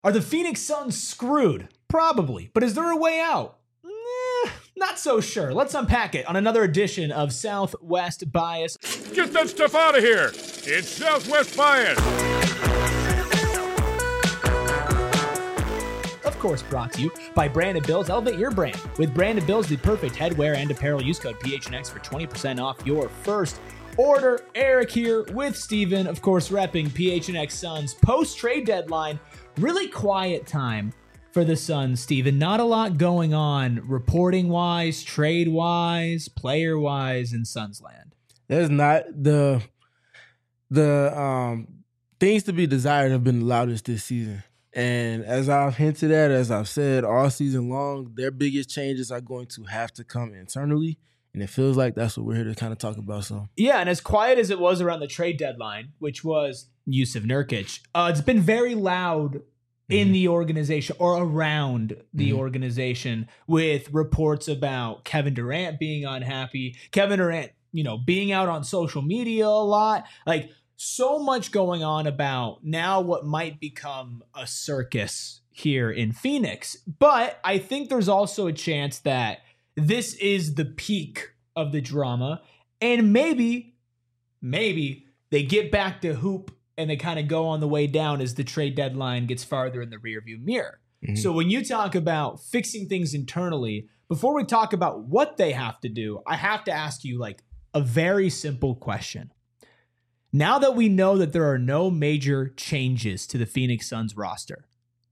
Are the Phoenix Suns screwed? Probably. But is there a way out? Not so sure. Let's unpack it on another edition of Southwest Bias. Get that stuff out of here. It's Southwest Bias. Of course, brought to you by Branded Bills. Elevate your brand with Branded Bills, the perfect headwear and apparel. Use code PHNX for 20% off your first order. Eric here with Steven, of course, repping PHNX Suns post-trade deadline. Really quiet time for the Suns, Steven. Not a lot going on reporting-wise, trade-wise, player-wise in Suns land. There's not the things to be desired have been the loudest this season. And as I've hinted at, as I've said all season long, their biggest changes are going to have to come internally. And it feels like that's what we're here to kind of talk about. So yeah, and as quiet as it was around the trade deadline, which was Jusuf Nurkic, it's been very loud in the organization or around the organization with reports about Kevin Durant being unhappy, Kevin Durant, being out on social media a lot, like so much going on about now what might become a circus here in Phoenix. But I think there's also a chance that this is the peak of the drama, and maybe they get back to hoop and they kind of go on the way down as the trade deadline gets farther in the rearview mirror. So when you talk about fixing things internally, before we talk about what they have to do, I have to ask you like a very simple question. Now that we know that there are no major changes to the Phoenix Suns roster,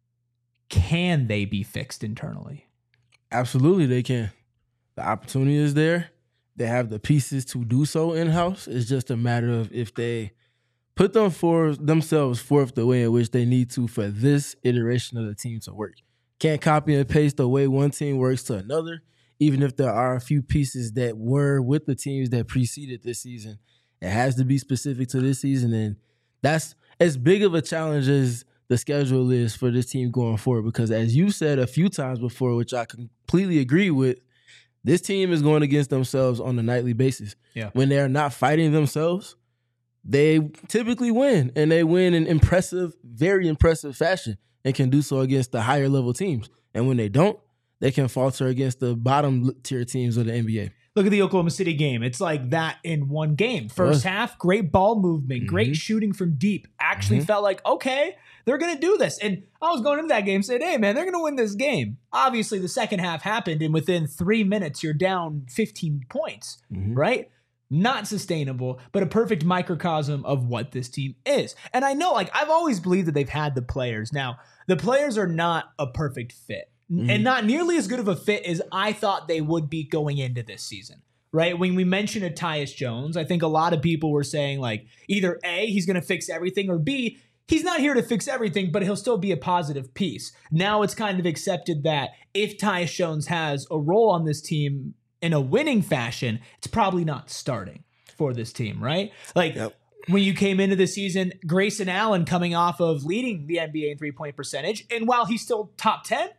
can they be fixed internally? absolutely they can. The opportunity is there. They have the pieces to do so in-house. It's just a matter of if they put themselves forth the way in which they need to for this iteration of the team to work. Can't copy and paste the way one team works to another, even if there are a few pieces that were with the teams that preceded this season. It has to be specific to this season, and that's as big of a challenge as the schedule is for this team going forward, because as you said a few times before, which I completely agree with, this team is going against themselves on a nightly basis. Yeah. When they're not fighting themselves, they typically win, and they win in impressive, very impressive fashion, and can do so against the higher level teams. And when they don't, they can falter against the bottom tier teams of the NBA. Look at the Oklahoma City game. It's like that in one game. First half, great ball movement, great shooting from deep. Actually felt like, okay, they're going to do this. And I was going into that game saying, hey, man, they're going to win this game. Obviously, the second half happened, and within 3 minutes, you're down 15 points, right? Not sustainable, but a perfect microcosm of what this team is. And I know, like, I've always believed that they've had the players. Now, the players are not a perfect fit. And not nearly as good of a fit as I thought they would be going into this season, right? When we mentioned Tyus Jones, I think a lot of people were saying, like, either A, he's going to fix everything, or B, he's not here to fix everything, but he'll still be a positive piece. Now it's kind of accepted that if Tyus Jones has a role on this team in a winning fashion, it's probably not starting for this team, right? Like, when you came into the season, Grayson Allen coming off of leading the NBA in three-point percentage, and while he's still top 10,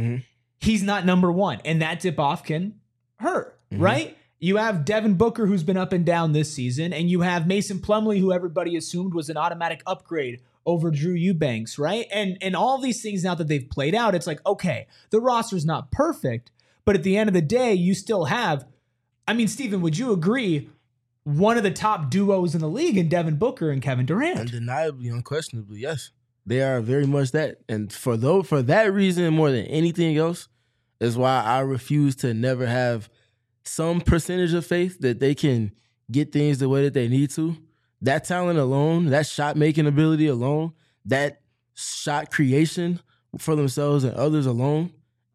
he's not number one, and that tip-off can hurt, right? You have Devin Booker, who's been up and down this season, and you have Mason Plumlee, who everybody assumed was an automatic upgrade over Drew Eubanks, right? And all these things now that they've played out, it's like, okay, the roster's not perfect, but at the end of the day, you still have, I mean, Steven, would you agree, one of the top duos in the league in Devin Booker and Kevin Durant? Undeniably, unquestionably, yes. They are very much that. And for that reason, more than anything else, is why I refuse to never have some percentage of faith that they can get things the way that they need to. That talent alone, that shot-making ability alone, that shot creation for themselves and others alone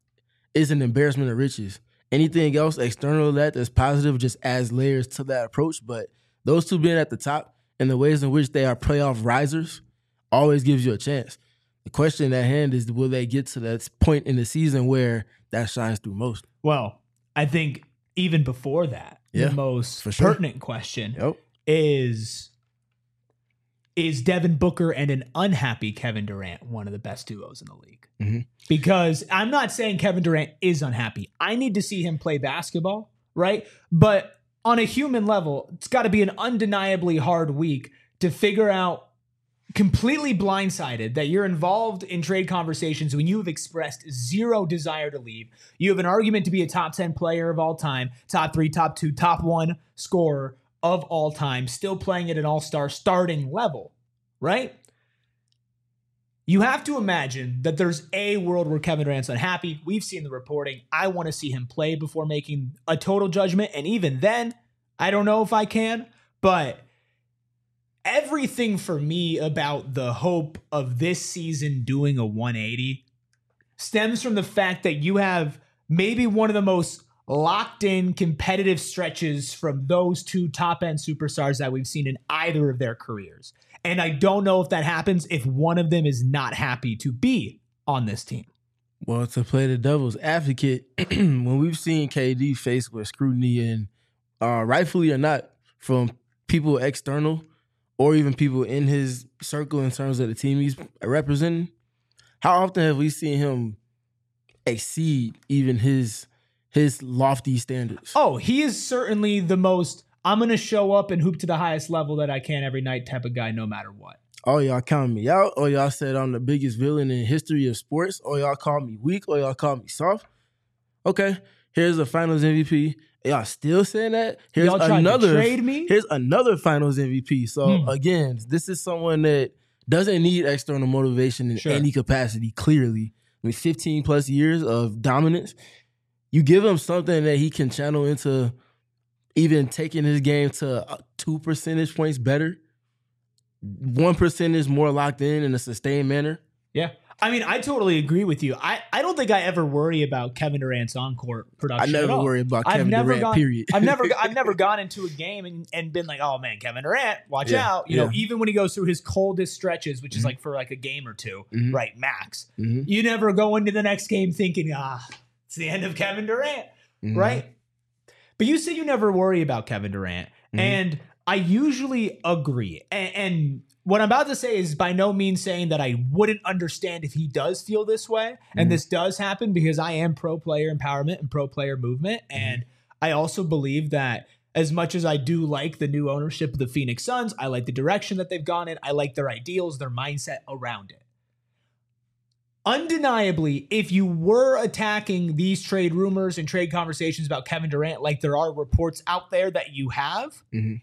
is an embarrassment of riches. Anything else external to that that's positive just adds layers to that approach. But those two being at the top and the ways in which they are playoff risers always gives you a chance. The question at hand is, will they get to that point in the season where that shines through most? Well, I think even before that, the most pertinent question is Devin Booker and an unhappy Kevin Durant one of the best duos in the league? Because I'm not saying Kevin Durant is unhappy. I need to see him play basketball, right? But on a human level, it's got to be an undeniably hard week to figure out completely blindsided that you're involved in trade conversations when you have expressed zero desire to leave. You have an argument to be a top 10 player of all time, top 3, top 2, top 1 scorer of all time, still playing at an all-star starting level, right? You have to imagine that there's a world where Kevin Durant's unhappy. We've seen the reporting. I want to see him play before making a total judgment. And even then, I don't know if I can, but everything for me about the hope of this season doing a 180 stems from the fact that you have maybe one of the most locked in competitive stretches from those two top end superstars that we've seen in either of their careers. And I don't know if that happens if one of them is not happy to be on this team. Well, to play the devil's advocate, when we've seen KD faced with scrutiny and rightfully or not from people external or even people in his circle in terms of the team he's representing, how often have we seen him exceed even his lofty standards? Oh, he is certainly the most I'm going to show up and hoop to the highest level that I can every night type of guy no matter what. Oh, y'all count me out? Or y'all said I'm the biggest villain in the history of sports? Or y'all call me weak? Or y'all call me soft? Okay, here's a Finals MVP. Y'all still saying that? Here's y'all tried to trade me? Here's another Finals MVP. So again, this is someone that doesn't need external motivation in any capacity, clearly. I mean, 15 plus years of dominance. You give him something that he can channel into even taking his game to 2 percentage points better, 1% more locked in a sustained manner. Yeah. I mean, I totally agree with you. I don't think I ever worry about Kevin Durant's on-court production. I never worry about Kevin Durant, period. I've never gone into a game and been like, oh man, Kevin Durant, watch out. You know, even when he goes through his coldest stretches, which is like for like a game or two, right, max. You never go into the next game thinking, it's the end of Kevin Durant, right? But you say you never worry about Kevin Durant, and I usually agree. And what I'm about to say is by no means saying that I wouldn't understand if he does feel this way. And this does happen because I am pro player empowerment and pro player movement. And I also believe that as much as I do like the new ownership of the Phoenix Suns, I like the direction that they've gone in. I like their ideals, their mindset around it. Undeniably, if you were attacking these trade rumors and trade conversations about Kevin Durant like there are reports out there that you have,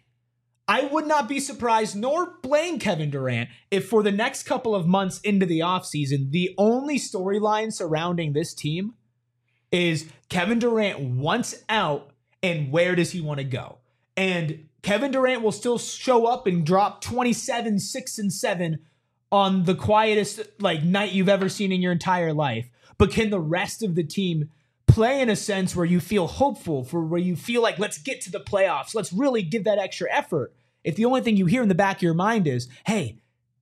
I would not be surprised nor blame Kevin Durant if for the next couple of months into the offseason, the only storyline surrounding this team is Kevin Durant wants out and where does he want to go? And Kevin Durant will still show up and drop 27, 6, and 7 on the quietest night you've ever seen in your entire life. But can the rest of the team play in a sense where you feel hopeful, where you feel like, let's get to the playoffs, let's really give that extra effort? If the only thing you hear in the back of your mind is, hey,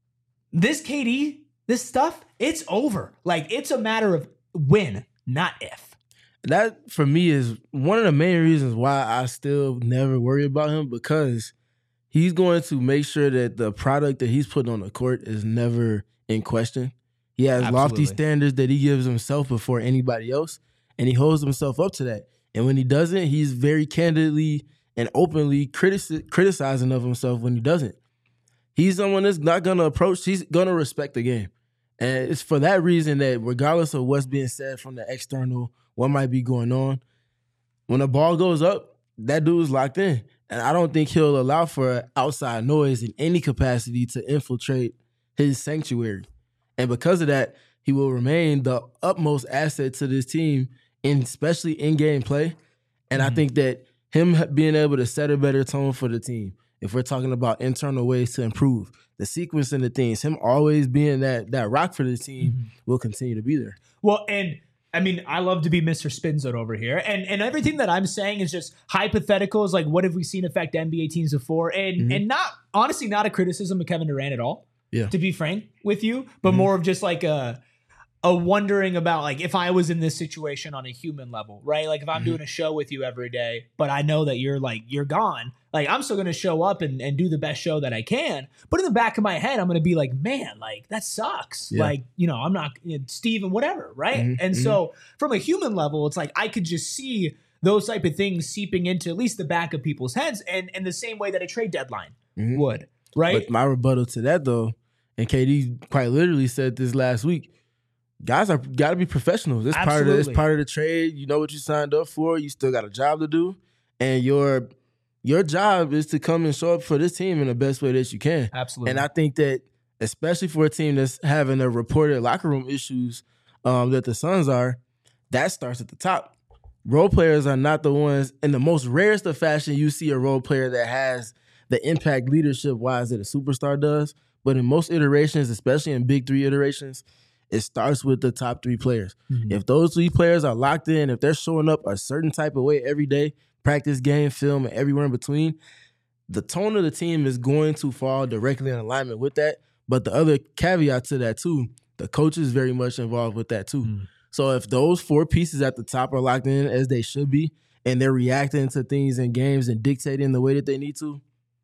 this KD, this stuff, it's over. Like, it's a matter of when, not if. That, for me, is one of the main reasons why I still never worry about him, because he's going to make sure that the product that he's putting on the court is never in question. He has lofty standards that he gives himself before anybody else, and he holds himself up to that. And when he doesn't, he's very candidly and openly criticizing of himself when he doesn't. He's someone that's not going to approach, he's going to respect the game. And it's for that reason that regardless of what's being said from the external, what might be going on, when the ball goes up, that dude's locked in. And I don't think he'll allow for outside noise in any capacity to infiltrate his sanctuary. And because of that, he will remain the utmost asset to this team, especially in-game play. And I think that him being able to set a better tone for the team, if we're talking about internal ways to improve, the sequence and the things, him always being that rock for the team will continue to be there. Well, and I mean, I love to be Mr. Spinzone over here. And everything that I'm saying is just hypotheticals, like what have we seen affect NBA teams before? And not, honestly, not a criticism of Kevin Durant at all, to be frank with you, but more of just like a wondering about, like, if I was in this situation on a human level, right? Like if I'm doing a show with you every day, but I know that you're gone, like I'm still going to show up and do the best show that I can. But in the back of my head, I'm going to be like, man, like that sucks. Yeah. Like, I'm not Steve and whatever. Right. And so from a human level, it's like, I could just see those type of things seeping into at least the back of people's heads and the same way that a trade deadline would. Right. But my rebuttal to that though And KD quite literally said this last week. Guys got to be professionals. It's part of the trade. You know what you signed up for. You still got a job to do, and your job is to come and show up for this team in the best way that you can. Absolutely. And I think that especially for a team that's having the reported locker room issues that the Suns are, that starts at the top. Role players are not the ones, in the most rarest of fashion, you see a role player that has the impact leadership-wise that a superstar does. But in most iterations, especially in big three iterations, it starts with the top three players. Mm-hmm. If those three players are locked in, if they're showing up a certain type of way every day, practice, game, film, and everywhere in between, the tone of the team is going to fall directly in alignment with that. But the other caveat to that, too, the coach is very much involved with that, too. Mm-hmm. So if those four pieces at the top are locked in as they should be, and they're reacting to things in games and dictating the way that they need to,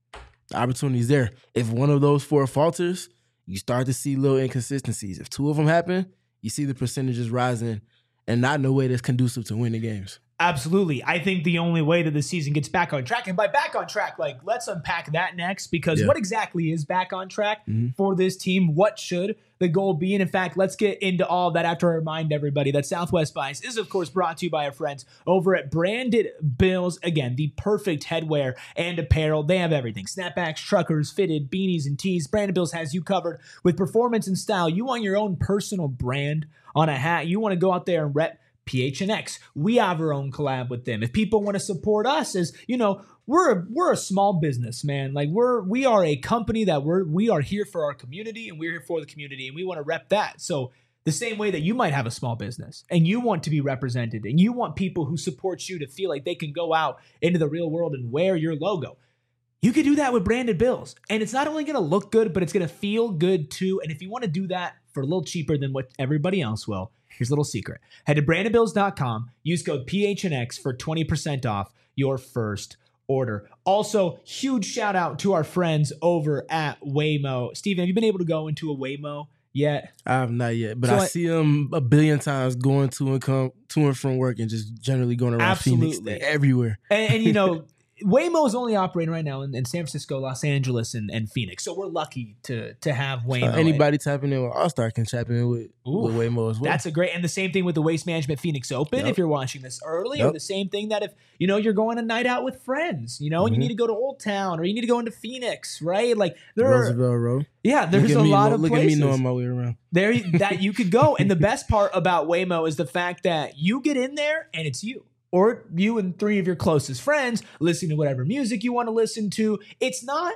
the opportunity's there. If one of those four falters, you start to see little inconsistencies. If two of them happen, you see the percentages rising, and not in a way that's conducive to winning games. Absolutely. I think the only way that the season gets back on track, and by back on track, like, let's unpack that next, because what exactly is back on track for this team? What should the goal be? And in fact, let's get into all of that after I remind everybody that Southwest Bias is, of course, brought to you by our friends over at Branded Bills. Again, the perfect headwear and apparel. They have everything. Snapbacks, truckers, fitted, beanies, and tees. Branded Bills has you covered with performance and style. You want your own personal brand on a hat. You want to go out there and rep PHNX. We have our own collab with them. If people want to support us, as you know, we're a small business, man. Like we are a company that we are here for our community, and we're here for the community, and we want to rep that. So the same way that you might have a small business and you want to be represented, and you want people who support you to feel like they can go out into the real world and wear your logo, you can do that with Branded Bills. And it's not only going to look good, but it's going to feel good too. And if you want to do that for a little cheaper than what everybody else will, here's a little secret. Head to brandedbills.com, use code PHNX for 20% off your first order. Also, huge shout out to our friends over at Waymo. Steven, have you been able to go into a Waymo yet? I have not yet, but I see them a billion times going to and from work and just generally going around Phoenix everywhere. And you know, Waymo is only operating right now in San Francisco, Los Angeles, and Phoenix. So we're lucky to have Waymo. Anybody tapping in with All-Star can tap in with Waymo as well. That's a great, and the same thing with the Waste Management Phoenix Open. If you're watching this early, or the same thing that if you're going a night out with friends, and you need to go to Old Town, or you need to go into Phoenix, right? Like Roosevelt Road. Yeah, there's a lot of places. Look at me knowing my way around. There that you could go, and the best part about Waymo is the fact that you get in there and it's you. Or you and three of your closest friends listening to whatever music you want to listen to. It's not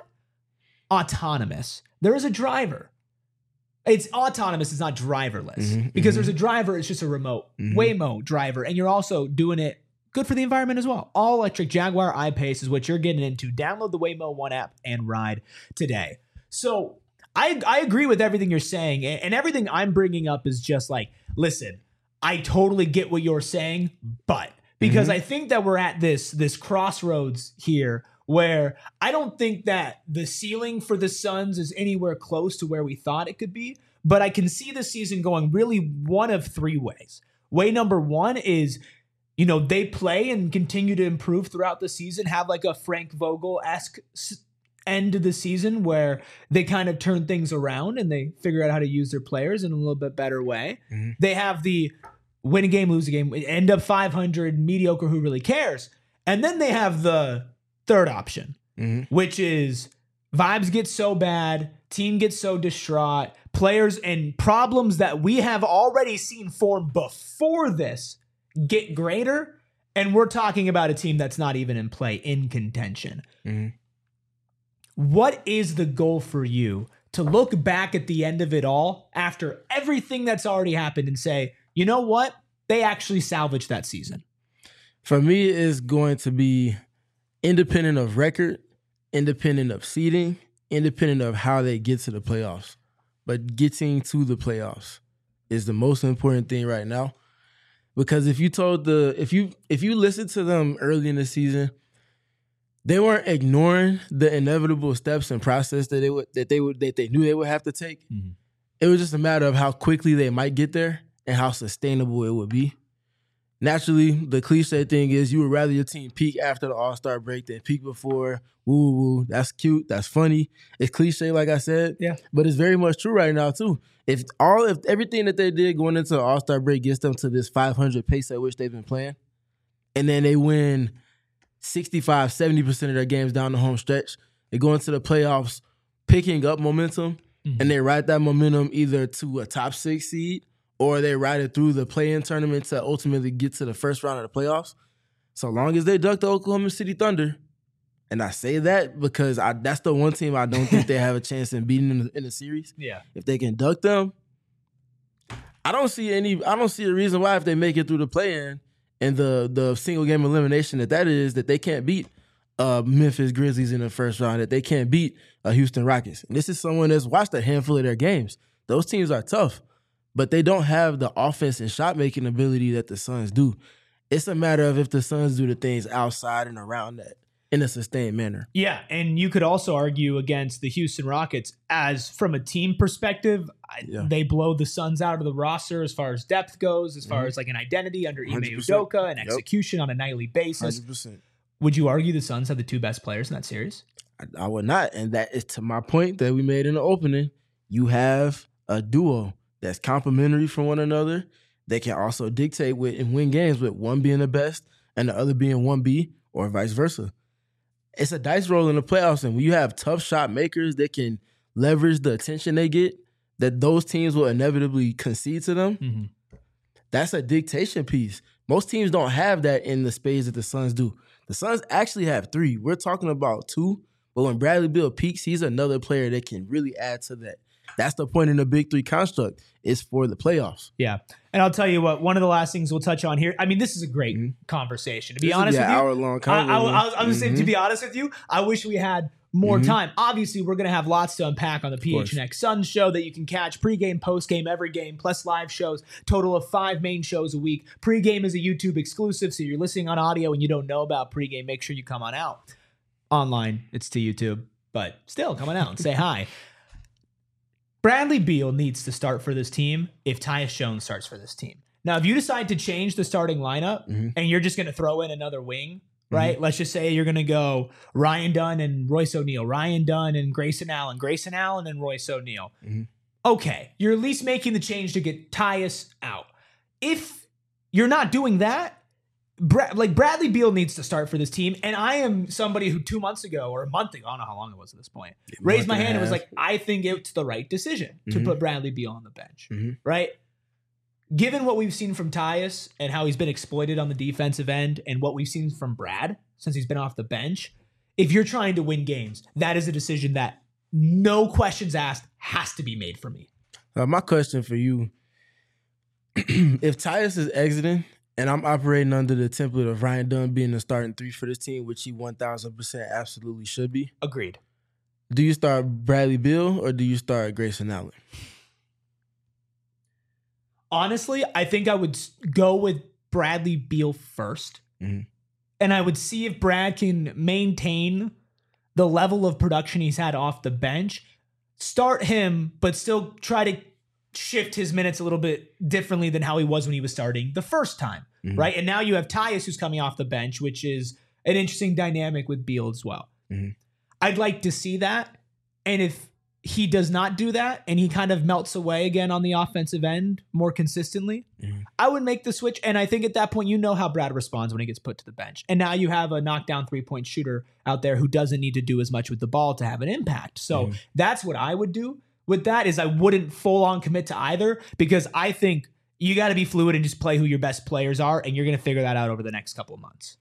autonomous. There is a driver. It's autonomous. It's not driverless. Because there's a driver. It's just a remote Waymo driver. And you're also doing it good for the environment as well. All electric Jaguar I-Pace is what you're getting into. Download the Waymo One app and ride today. So I agree with everything you're saying. And everything I'm bringing up is just like, listen, I totally get what you're saying, but... Because I think that we're at this crossroads here where I don't think that the ceiling for the Suns is anywhere close to where we thought it could be. But I can see the season going really one of three ways. Way number one is, they play and continue to improve throughout the season, have like a Frank Vogel-esque end of the season where they kind of turn things around and they figure out how to use their players in a little bit better way. They have the win a game, lose a game, end up 500, mediocre, who really cares? And then they have the third option, which is vibes get so bad, team gets so distraught, players and problems that we have already seen form before this get greater, and we're talking about a team that's not even in play, in contention. What is the goal for you to look back at the end of it all after everything that's already happened and say, you know what? They actually salvaged that season. For me, it's going to be independent of record, independent of seeding, independent of how they get to the playoffs. But getting to the playoffs is the most important thing right now. Because if you listen to them early in the season, they weren't ignoring the inevitable steps and process that they knew they would have to take. It was just a matter of how quickly they might get there and how sustainable it would be. naturally, the cliche thing is you would rather your team peak after the All-Star break than peak before. Woo woo, that's cute, that's funny. It's cliche, like I said. Yeah. But it's very much true right now too. If everything that they did going into the All-Star break gets them to this 500 pace at which they've been playing, and then they win 65, 70% of their games down the home stretch, they go into the playoffs picking up momentum, and they ride that momentum either to a top 6 seed or they ride it through the play-in tournament to ultimately get to the first round of the playoffs. So long as they duck the Oklahoma City Thunder, and I say that because that's the one team I don't think they have a chance in beating in the series. Yeah. If they can duck them, I don't see a reason why if they make it through the play-in and the single game elimination that is, that they can't beat Memphis Grizzlies in the first round, that they can't beat Houston Rockets. And this is someone that's watched a handful of their games. Those teams are tough, but they don't have the offense and shot-making ability that the Suns do. It's a matter of if the Suns do the things outside and around that in a sustained manner. Yeah, and you could also argue against the Houston Rockets as from a team perspective, they blow the Suns out of the roster as far as depth goes, as far as like an identity under Ime 100%. Udoka and execution on a nightly basis. 100%. Would you argue the Suns have the two best players in that series? I would not. And that is to my point that we made in the opening. You have a duo that's complementary from one another. They can also dictate and win games with one being the best and the other being 1B or vice versa. It's a dice roll in the playoffs, and when you have tough shot makers that can leverage the attention they get, that those teams will inevitably concede to them, that's a dictation piece. Most teams don't have that in the spades that the Suns do. The Suns actually have 3. We're talking about 2, but when Bradley Beal peaks, he's another player that can really add to that. That's the point in the Big 3 construct, is for the playoffs. Yeah. And I'll tell you what, one of the last things we'll touch on here, I mean, this is a great conversation. To be honest with you, hour-long conversation. I was saying, to be honest with you, I wish we had more time. Obviously, we're going to have lots to unpack on the PHNX Suns show that you can catch pregame, postgame, every game, plus live shows, total of 5 main shows a week. Pregame is a YouTube exclusive, so you're listening on audio and you don't know about pregame, make sure you come on out. Online, it's to YouTube, but still, come on out and say hi. Bradley Beal needs to start for this team if Tyus Jones starts for this team. Now, if you decide to change the starting lineup and you're just going to throw in another wing, right? Let's just say you're going to go Ryan Dunn and Royce O'Neal, Ryan Dunn and Grayson Allen and Royce O'Neal. Okay, you're at least making the change to get Tyus out. If you're not doing that, Bradley Beal needs to start for this team. And I am somebody who 2 months ago or a month ago, I don't know how long it was at this point, raised my hand and was like, I think it's the right decision to put Bradley Beal on the bench, right? Given what we've seen from Tyus and how he's been exploited on the defensive end and what we've seen from Brad since he's been off the bench, if you're trying to win games, that is a decision that no questions asked has to be made for me. My question for you, if Tyus is exiting and I'm operating under the template of Ryan Dunn being the starting 3 for this team, which he 1,000% absolutely should be. Agreed. Do you start Bradley Beal or do you start Grayson Allen? Honestly, I think I would go with Bradley Beal first. And I would see if Brad can maintain the level of production he's had off the bench. Start him, but still try to shift his minutes a little bit differently than how he was when he was starting the first time, right? And now you have Tyus who's coming off the bench, which is an interesting dynamic with Beal as well. I'd like to see that. And if he does not do that and he kind of melts away again on the offensive end more consistently, I would make the switch. And I think at that point, you know how Brad responds when he gets put to the bench. And now you have a knockdown 3-point shooter out there who doesn't need to do as much with the ball to have an impact. So that's what I would do. With that is I wouldn't full on commit to either, because I think you got to be fluid and just play who your best players are. And you're going to figure that out over the next couple of months.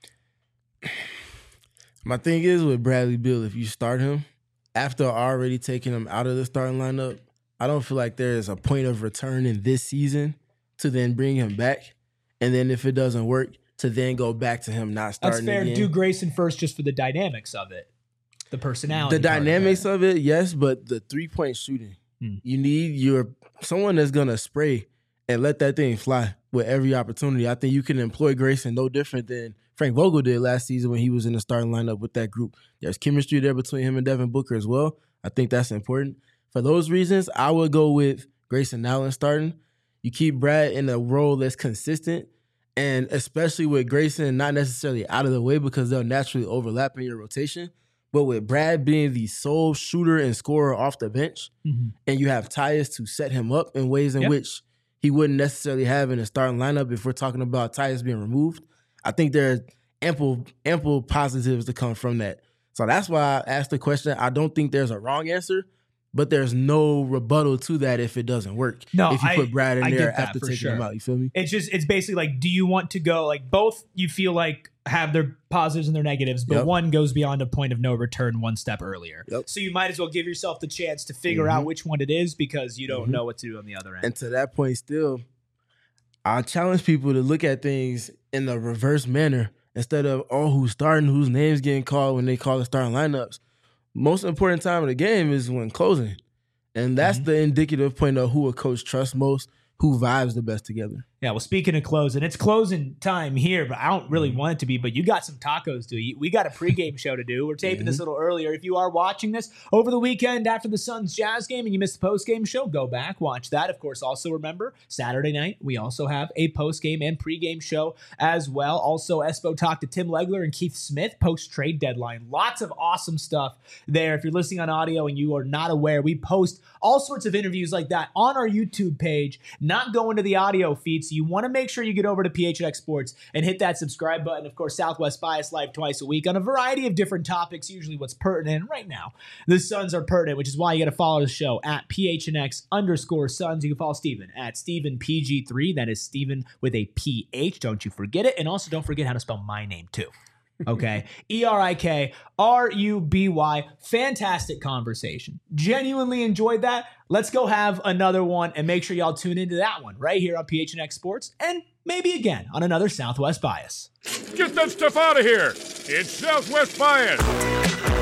My thing is with Bradley Beal, if you start him after already taking him out of the starting lineup, I don't feel like there is a point of return in this season to then bring him back. And then if it doesn't work, to then go back to him not starting again. That's fair. Again. Do Grayson first just for the dynamics of it. The personality. The dynamics of it, yes, but the 3-point shooting. You need someone that's going to spray and let that thing fly with every opportunity. I think you can employ Grayson no different than Frank Vogel did last season when he was in the starting lineup with that group. There's chemistry there between him and Devin Booker as well. I think that's important. For those reasons, I would go with Grayson Allen starting. You keep Brad in a role that's consistent, And especially with Grayson not necessarily out of the way because they'll naturally overlap in your rotation. But with Brad being the sole shooter and scorer off the bench, and you have Tyus to set him up in ways in which he wouldn't necessarily have in a starting lineup if we're talking about Tyus being removed, I think there are ample positives to come from that. So that's why I asked the question. I don't think there's a wrong answer, but there's no rebuttal to that if it doesn't work. No, if you put Brad in there after taking sure. him out, you feel me? It's basically like, do you want to go like both? You feel like have their positives and their negatives, but one goes beyond a point of no return one step earlier. So you might as well give yourself the chance to figure out which one it is because you don't know what to do on the other end. And to that point, still, I challenge people to look at things in the reverse manner instead of who's starting, whose name's getting called when they call the starting lineups. Most important time of the game is when closing. And that's the indicative point of who a coach trusts most, who vibes the best together. Yeah, well, speaking of closing, it's closing time here, but I don't really want it to be, but you got some tacos to eat. We got a pregame show to do. We're taping this a little earlier. If you are watching this over the weekend after the Suns Jazz game and you missed the postgame show, go back, watch that. Of course, also remember, Saturday night, we also have a postgame and pregame show as well. Also, Espo talked to Tim Legler and Keith Smith post-trade deadline. Lots of awesome stuff there. If you're listening on audio and you are not aware, we post all sorts of interviews like that on our YouTube page, not going to the audio feed. So you want to make sure you get over to PHNX Sports and hit that subscribe button. Of course, Southwest Bias live twice a week on a variety of different topics, usually what's pertinent. And right now, the Suns are pertinent, which is why you got to follow the show at PHNX_Suns. You can follow Steven at StevenPG3. That is Steven with a PH. Don't you forget it. And also don't forget how to spell my name too. Okay. ERIKRUBY. Fantastic conversation. Genuinely enjoyed that. Let's go have another one and make sure y'all tune into that one right here on PHNX Sports and maybe again on another Southwest Bias. Get that stuff out of here. It's Southwest Bias.